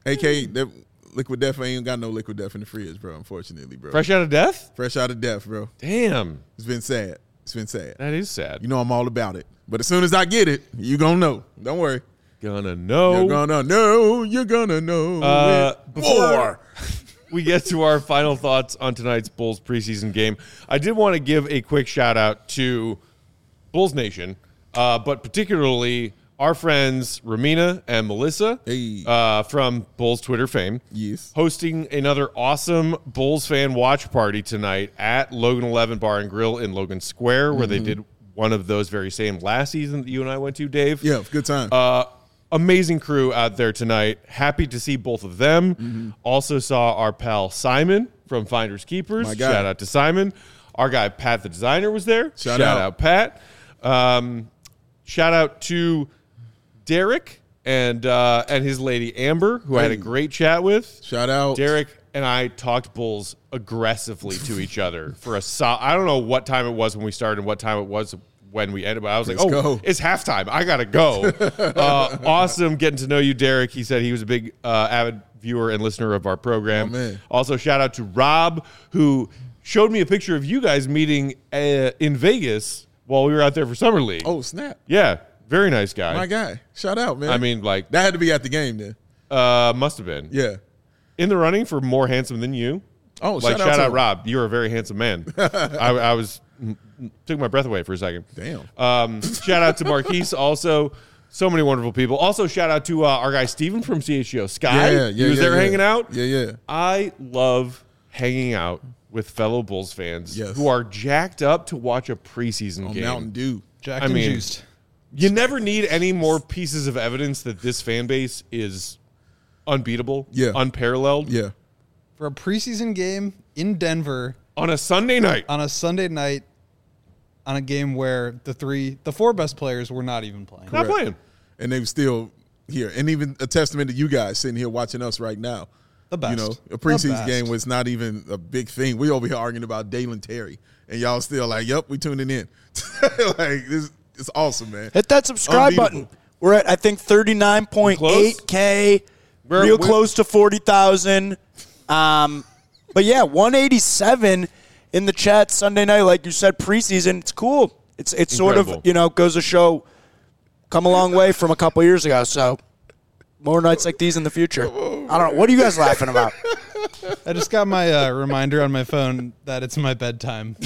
A K, that Liquid Death ain't got no Liquid Death in the fridge, bro, unfortunately, bro. Fresh out of death? Fresh out of death, bro. Damn. It's been sad. It's been sad. That is sad. You know I'm all about it. But as soon as I get it, you gonna know. Don't worry. Gonna know. You're gonna know. You're gonna know. Uh, it. before we get to our final thoughts on tonight's Bulls preseason game, I did want to give a quick shout out to Bulls Nation, uh, but particularly our friends Ramina and Melissa Hey. uh, from Bulls Twitter fame. Yes. Hosting another awesome Bulls fan watch party tonight at Logan eleven Bar and Grill in Logan Square, where Mm-hmm. they did one of those very same last season that you and I went to, Dave. Yeah, good time. Uh, amazing crew out there tonight. Happy to see both of them. Mm-hmm. Also saw our pal Simon from Finders Keepers. My guy. Shout out to Simon. Our guy Pat the designer was there. Shout out. Pat. Um, shout out to Derek and uh, and his lady Amber, who I had a Hey. great chat with. Shout out. Derek and I talked Bulls aggressively to each other for a so- I don't know what time it was when we started and what time it was when we ended, but I was like, Let's oh, go. it's halftime. I got to go. uh, awesome getting to know you, Derek. He said he was a big uh, avid viewer and listener of our program. Oh, man. Also, shout out to Rob, who showed me a picture of you guys meeting uh, in Vegas while we were out there for Summer League. Oh, snap. Yeah, very nice guy. My guy. Shout out, man. I mean, like, that had to be at the game then. uh, must have been. Yeah. In the running for more handsome than you. Oh, Like, shout out shout to out, him. Rob. You're a very handsome man. I, I was took my breath away for a second. Damn. Um, shout out to Marquise. Also, so many wonderful people. Also, shout out to uh, our guy Steven from C H G O Sky. Yeah, yeah, he was yeah, there yeah. hanging out. Yeah, yeah. I love hanging out with fellow Bulls fans Yes. who are jacked up to watch a preseason On game. Mountain Dew. Jacked I and mean- juiced. You never need any more pieces of evidence that this fan base is unbeatable, Yeah. unparalleled. Yeah. For a preseason game in Denver On a Sunday night. on a Sunday night on a game where the three, the four best players were not even playing. Not playing. And they were still here. And even a testament to you guys sitting here watching us right now. The best. You know, a The preseason best. game was not even a big thing. We over here arguing about Dalen Terry. And y'all still like, yep, we tuning in. Like, this it's awesome, man. Hit that subscribe Unbeatable. button. We're at, I think, thirty-nine point eight K, We're- real we're- close to forty thousand. Um, but, yeah, one eighty-seven in the chat Sunday night. Like you said, preseason. It's cool. It's it's sort of, Incredible. you know, goes to show come a long way from a couple years ago. So more nights like these in the future. I don't know. What are you guys laughing about? I just got my uh, reminder on my phone that it's my bedtime.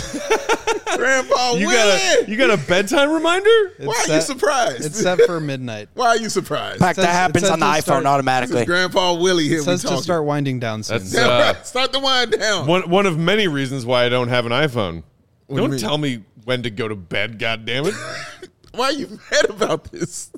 Grandpa You Willie! got a you got a bedtime reminder? It's Why are you set- surprised? It's set for midnight. Why are you surprised? Fact, says- that it happens says on the to iPhone start- automatically. Grandpa Willie here. It says we to talking. start winding down soon. That's- Yeah, Uh, right. Start the wind down. One one of many reasons why I don't have an iPhone. do you Don't mean? tell me when to go to bed, God damn it. Why are you mad about this?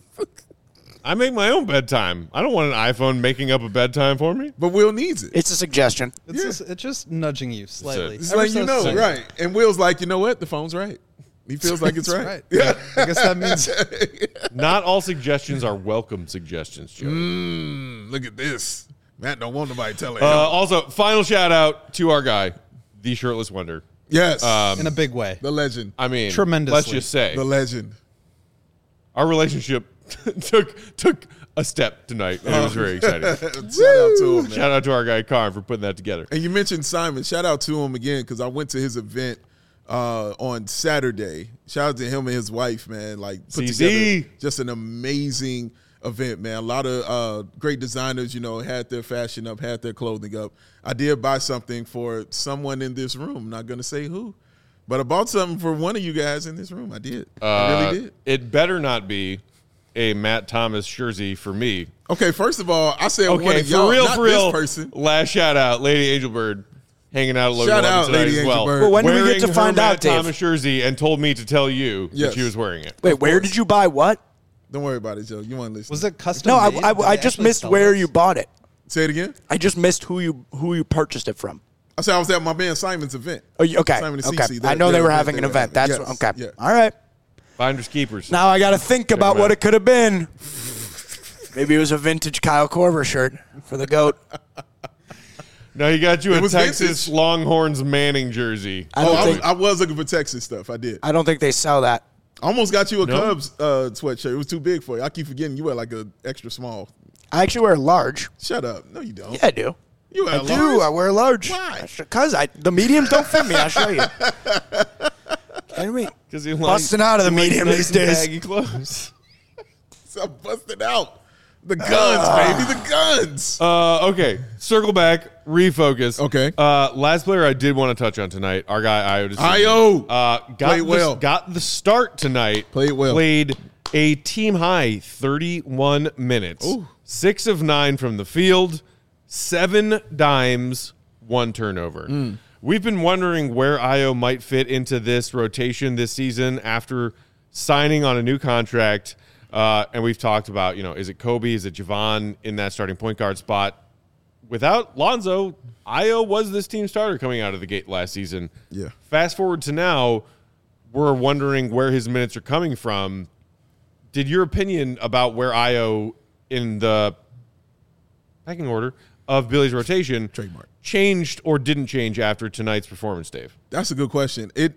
I make my own bedtime. I don't want an iPhone making up a bedtime for me. But Will needs it. It's a suggestion. It's, Yeah. just, it's just nudging you slightly. It's Ever like you so know, slightly. right? And Will's like, you know what? The phone's right. He feels like it's That's right. right. Yeah. I guess that means Not all suggestions are welcome suggestions, Joe. Mm, look at this. Matt don't want nobody telling Uh, him. also, final shout out to our guy, the Shirtless Wonder. Yes. in a big way. the legend. I mean, Tremendously. let's just say The legend. our relationship took took a step tonight, and it was very exciting. Shout out to him, man. Shout out to our guy Karn for putting that together. And you mentioned Simon. Shout out to him again because I went to his event uh, on Saturday. Shout out to him and his wife, man. Like put C Z. together just an amazing event, man. A lot of uh, great designers, you know, had their fashion up, had their clothing up. I did buy something for someone in this room. Not gonna say who, but I bought something for one of you guys in this room. I did. I Uh, really did. It better not be a Matt Thomas jersey for me. Okay, first of all, I said one Okay, of y'all, for real, not for real. this person. Last shout out, Lady Angelbird, hanging out at Logan Shout eleven out, tonight Lady as well. Angelbird. Well, when do we Wearing get to her find Matt out, Dave? Thomas jersey and told me to tell you Yes. that she was wearing it. Wait, where did you buy what? Don't worry about it, Joe. You want to listen? Was it custom? No, I, made? I, Did I they just actually missed sell where this? you bought it. Say it again. I just missed who you who you purchased it from. I said I was at my man Simon's event. Oh, you- okay. Simon and okay. Cece, I that- know that they were event having they an were event. having. That's Yes, okay. yeah. All right. Finders keepers. Now I got to think Check about them what out. it could have been. Maybe it was a vintage Kyle Korver shirt for the GOAT. No, he got you It a was Texas vintage. Longhorns Manning jersey. I Oh, don't I was, think I was looking for Texas stuff. I did. I I don't think they sell that. almost got you a No? Cubs uh, sweatshirt. It was too big for you. I keep forgetting you were like a extra small. I actually wear a large. Shut up. No, you don't. Yeah, I do. You wear I a do. large? I wear a large. Why? Because I the mediums don't fit me. I'll show you. Kidding me? Because he Busting out of the medium nice these and days. baggy clothes. So I'm busting out. The guns, baby. The guns. Uh, okay, circle back, refocus. Okay. Uh, last player I did want to touch on tonight, our guy Io. Io. Uh, got Played the, well. Got the start tonight. Played well. Played a team high thirty-one minutes. Ooh. Six of nine from the field, seven dimes, one turnover. Mm. We've been wondering where Io might fit into this rotation this season after signing on a new contract. Uh, and we've talked about, you know, is it Kobe? Is it Javon in that starting point guard spot? Without Lonzo, Io was this team starter coming out of the gate last season. Yeah. Fast forward to now, we're wondering where his minutes are coming from. Did your opinion about where Io in the pecking order of Billy's rotation Trademark. changed or didn't change after tonight's performance, Dave? That's a good question. It,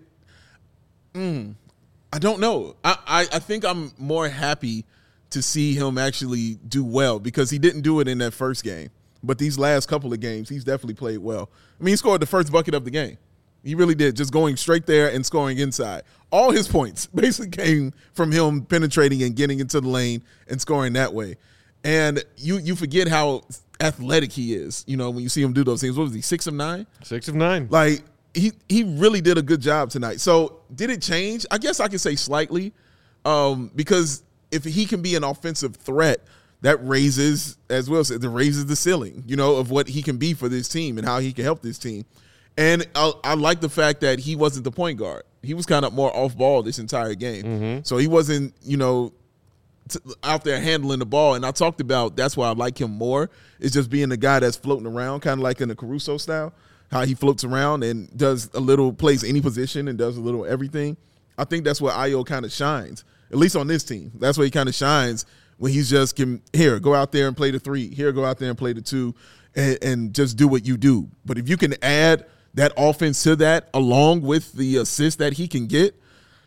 mm, I don't know. I, I, I think I'm more happy to see him actually do well because he didn't do it in that first game. But these last couple of games, he's definitely played well. I mean, he scored the first bucket of the game. He really did, just going straight there and scoring inside. All his points basically came from him penetrating and getting into the lane and scoring that way. And you you forget how athletic he is, you know, when you see him do those things. What was he, six of nine? Six of nine. Like, he he really did a good job tonight. So did it change? I guess I could say slightly, um, because if he can be an offensive threat, that raises, as Will said, that raises the ceiling, you know, of what he can be for this team and how he can help this team. And I, I like the fact that he wasn't the point guard. He was kind of more off ball this entire game. Mm-hmm. So he wasn't, you know, t- out there handling the ball. And I talked about that's why I like him more, is just being the guy that's floating around, kind of like in the Caruso style, how he floats around and does a little, plays any position and does a little everything. I think that's where Io kind of shines, at least on this team. That's where he kind of shines when he's just, can, here, go out there and play the three. Here, go out there and play the two and, and just do what you do. But if you can add that offense to that, along with the assist that he can get,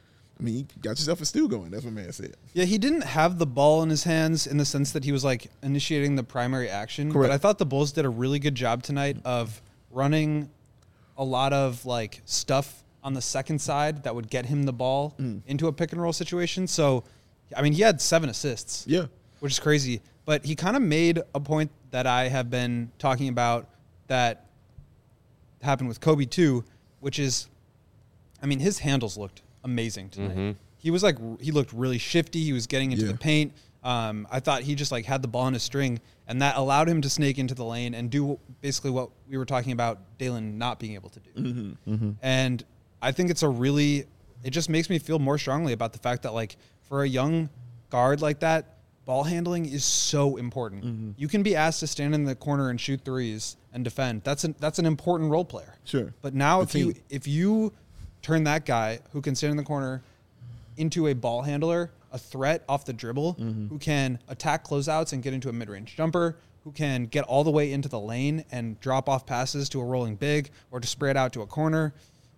I mean, you got yourself a stew going. That's what man said. Yeah, he didn't have the ball in his hands in the sense that he was like initiating the primary action. Correct. But I thought the Bulls did a really good job tonight of running a lot of like stuff on the second side that would get him the ball mm. into a pick and roll situation. So, I mean, he had seven assists. Yeah. Which is crazy. But he kind of made a point that I have been talking about that happened with Kobe too, which is, I mean, his handles looked amazing tonight. Mm-hmm. He was like, he looked really shifty. He was getting into yeah. the paint. Um, I thought he just like had the ball on a string, and that allowed him to snake into the lane and do basically what we were talking about Dalen not being able to do. Mm-hmm. Mm-hmm. And I think it's a really, it just makes me feel more strongly about the fact that like for a young guard like that, ball handling is so important. Mm-hmm. You can be asked to stand in the corner and shoot threes and defend. That's an that's an important role player. Sure. But now the if team. you if you turn that guy who can stand in the corner into a ball handler, a threat off the dribble, mm-hmm. who can attack closeouts and get into a mid-range jumper, who can get all the way into the lane and drop off passes to a rolling big or to spread out to a corner.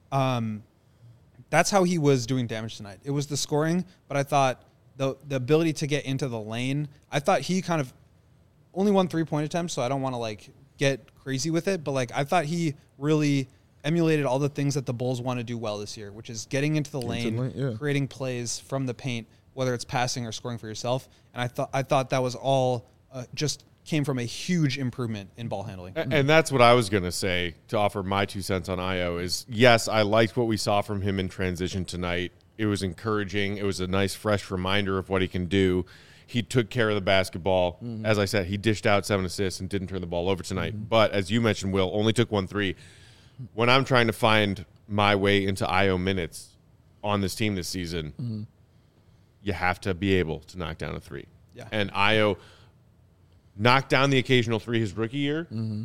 Um, that's how he was doing damage tonight. It was the scoring, but I thought the the ability to get into the lane, I thought he kind of only won three-point attempts, so I don't want to like get crazy with it, but like I thought he really emulated all the things that the Bulls want to do well this year, which is getting into the lane, into the lane yeah. creating plays from the paint, whether it's passing or scoring for yourself. And I thought I thought that was all uh, just came from a huge improvement in ball handling. And, and that's what I was going to say to offer my two cents on Io is, yes, I liked what we saw from him in transition tonight. It was encouraging. It was a nice, fresh reminder of what he can do. He took care of the basketball. Mm-hmm. As I said, he dished out seven assists and didn't turn the ball over tonight. Mm-hmm. But as you mentioned, Will, only took one three. When I'm trying to find my way into Io minutes on this team this season, mm-hmm. you have to be able to knock down a three. Yeah. And Io knocked down the occasional three his rookie year. Mm-hmm.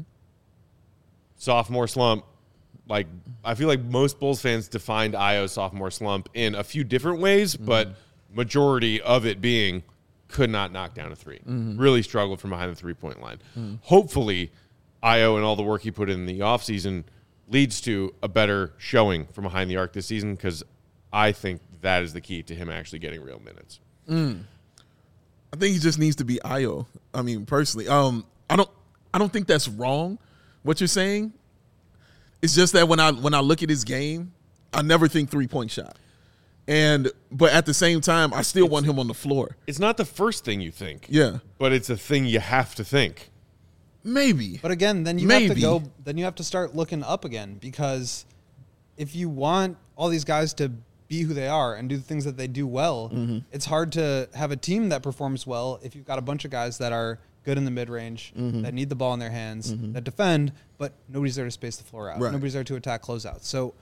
Sophomore slump. Like, I feel like most Bulls fans defined Io's sophomore slump in a few different ways, mm-hmm. but majority of it being could not knock down a three. Mm-hmm. Really struggled from behind the three-point line. Mm-hmm. Hopefully, Io and all the work he put in the offseason leads to a better showing from behind the arc this season, because I think that is the key to him actually getting real minutes. Mm. I think he just needs to be Ayo. I mean, personally, um, I don't, I don't think that's wrong. What you're saying. It's just that when I when I look at his game, I never think three point shot. And but at the same time, I still it's, want him on the floor. It's not the first thing you think. Yeah, but it's a thing you have to think. Maybe. But again, then you Maybe. have to go. Then you have to start looking up again, because if you want all these guys to be who they are and do the things that they do well, mm-hmm. it's hard to have a team that performs well if you've got a bunch of guys that are good in the mid-range, mm-hmm. that need the ball in their hands, mm-hmm. that defend, but nobody's there to space the floor out. Right. Nobody's there to attack closeouts. So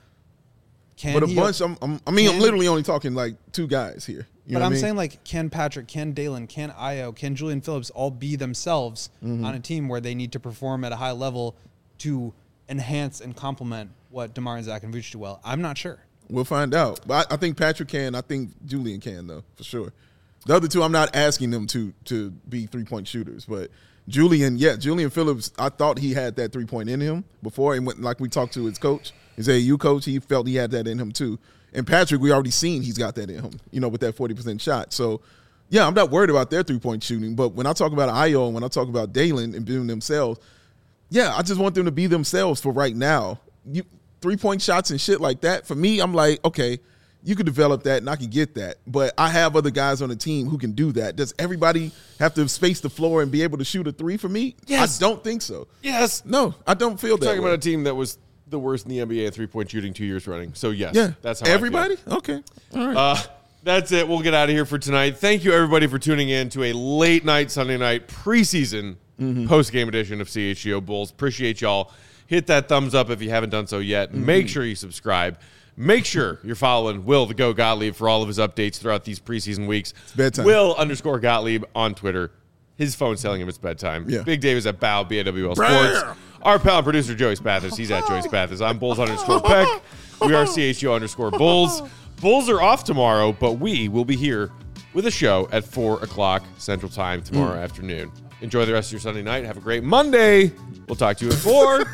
can But a he, bunch, I'm, I'm, I mean, can, I'm literally only talking like two guys here. You but know I'm what I mean? saying, like, can Patrick, can Dalen, can Ayo, can Julian Phillips all be themselves mm-hmm. on a team where they need to perform at a high level to enhance and complement what DeMar and Zach and Vooch do well? I'm not sure. We'll find out. But I, I think Patrick can. I think Julian can, though, for sure. The other two, I'm not asking them to to be three-point shooters. But Julian, yeah, Julian Phillips, I thought he had that three-point in him before. And went, like we talked to his coach, his A A U coach, he felt he had that in him too. And Patrick, we already seen he's got that in him, you know, with that forty percent shot. So, yeah, I'm not worried about their three-point shooting. But when I talk about Ayo and when I talk about Dalen and being themselves, yeah, I just want them to be themselves for right now. You three-point shots and shit like that, for me, I'm like, okay, you could develop that and I can get that. But I have other guys on the team who can do that. Does everybody have to space the floor and be able to shoot a three for me? Yes. I don't think so. Yes. No, I don't feel We're that talking way. about a team that was the worst in the N B A at three-point shooting two years running. So, yes, Yeah. that's how Everybody? I feel. Okay. All right. Uh, that's it. We'll get out of here for tonight. Thank you, everybody, for tuning in to a late-night Sunday night preseason mm-hmm. post-game edition of C H G O Bulls. Appreciate y'all. Hit that thumbs up if you haven't done so yet. Mm-hmm. Make sure you subscribe. Make sure you're following Will the Go Gottlieb for all of his updates throughout these preseason weeks. It's bedtime. Will underscore Gottlieb on Twitter. His phone's telling him it's bedtime. Yeah. Big Dave is at B A W, B A W L Sports. Our pal and producer, Joey Spathis. He's at Joey Spathis. I'm Bulls underscore Peck. We are C H G O underscore Bulls. Bulls are off tomorrow, but we will be here with a show at four o'clock Central Time tomorrow mm. afternoon. Enjoy the rest of your Sunday night. Have a great Monday. We'll talk to you at four.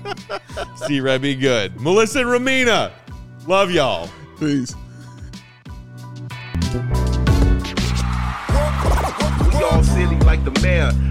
See Red be good. Melissa and Ramina. Love y'all. Peace. We all silly like the mayor.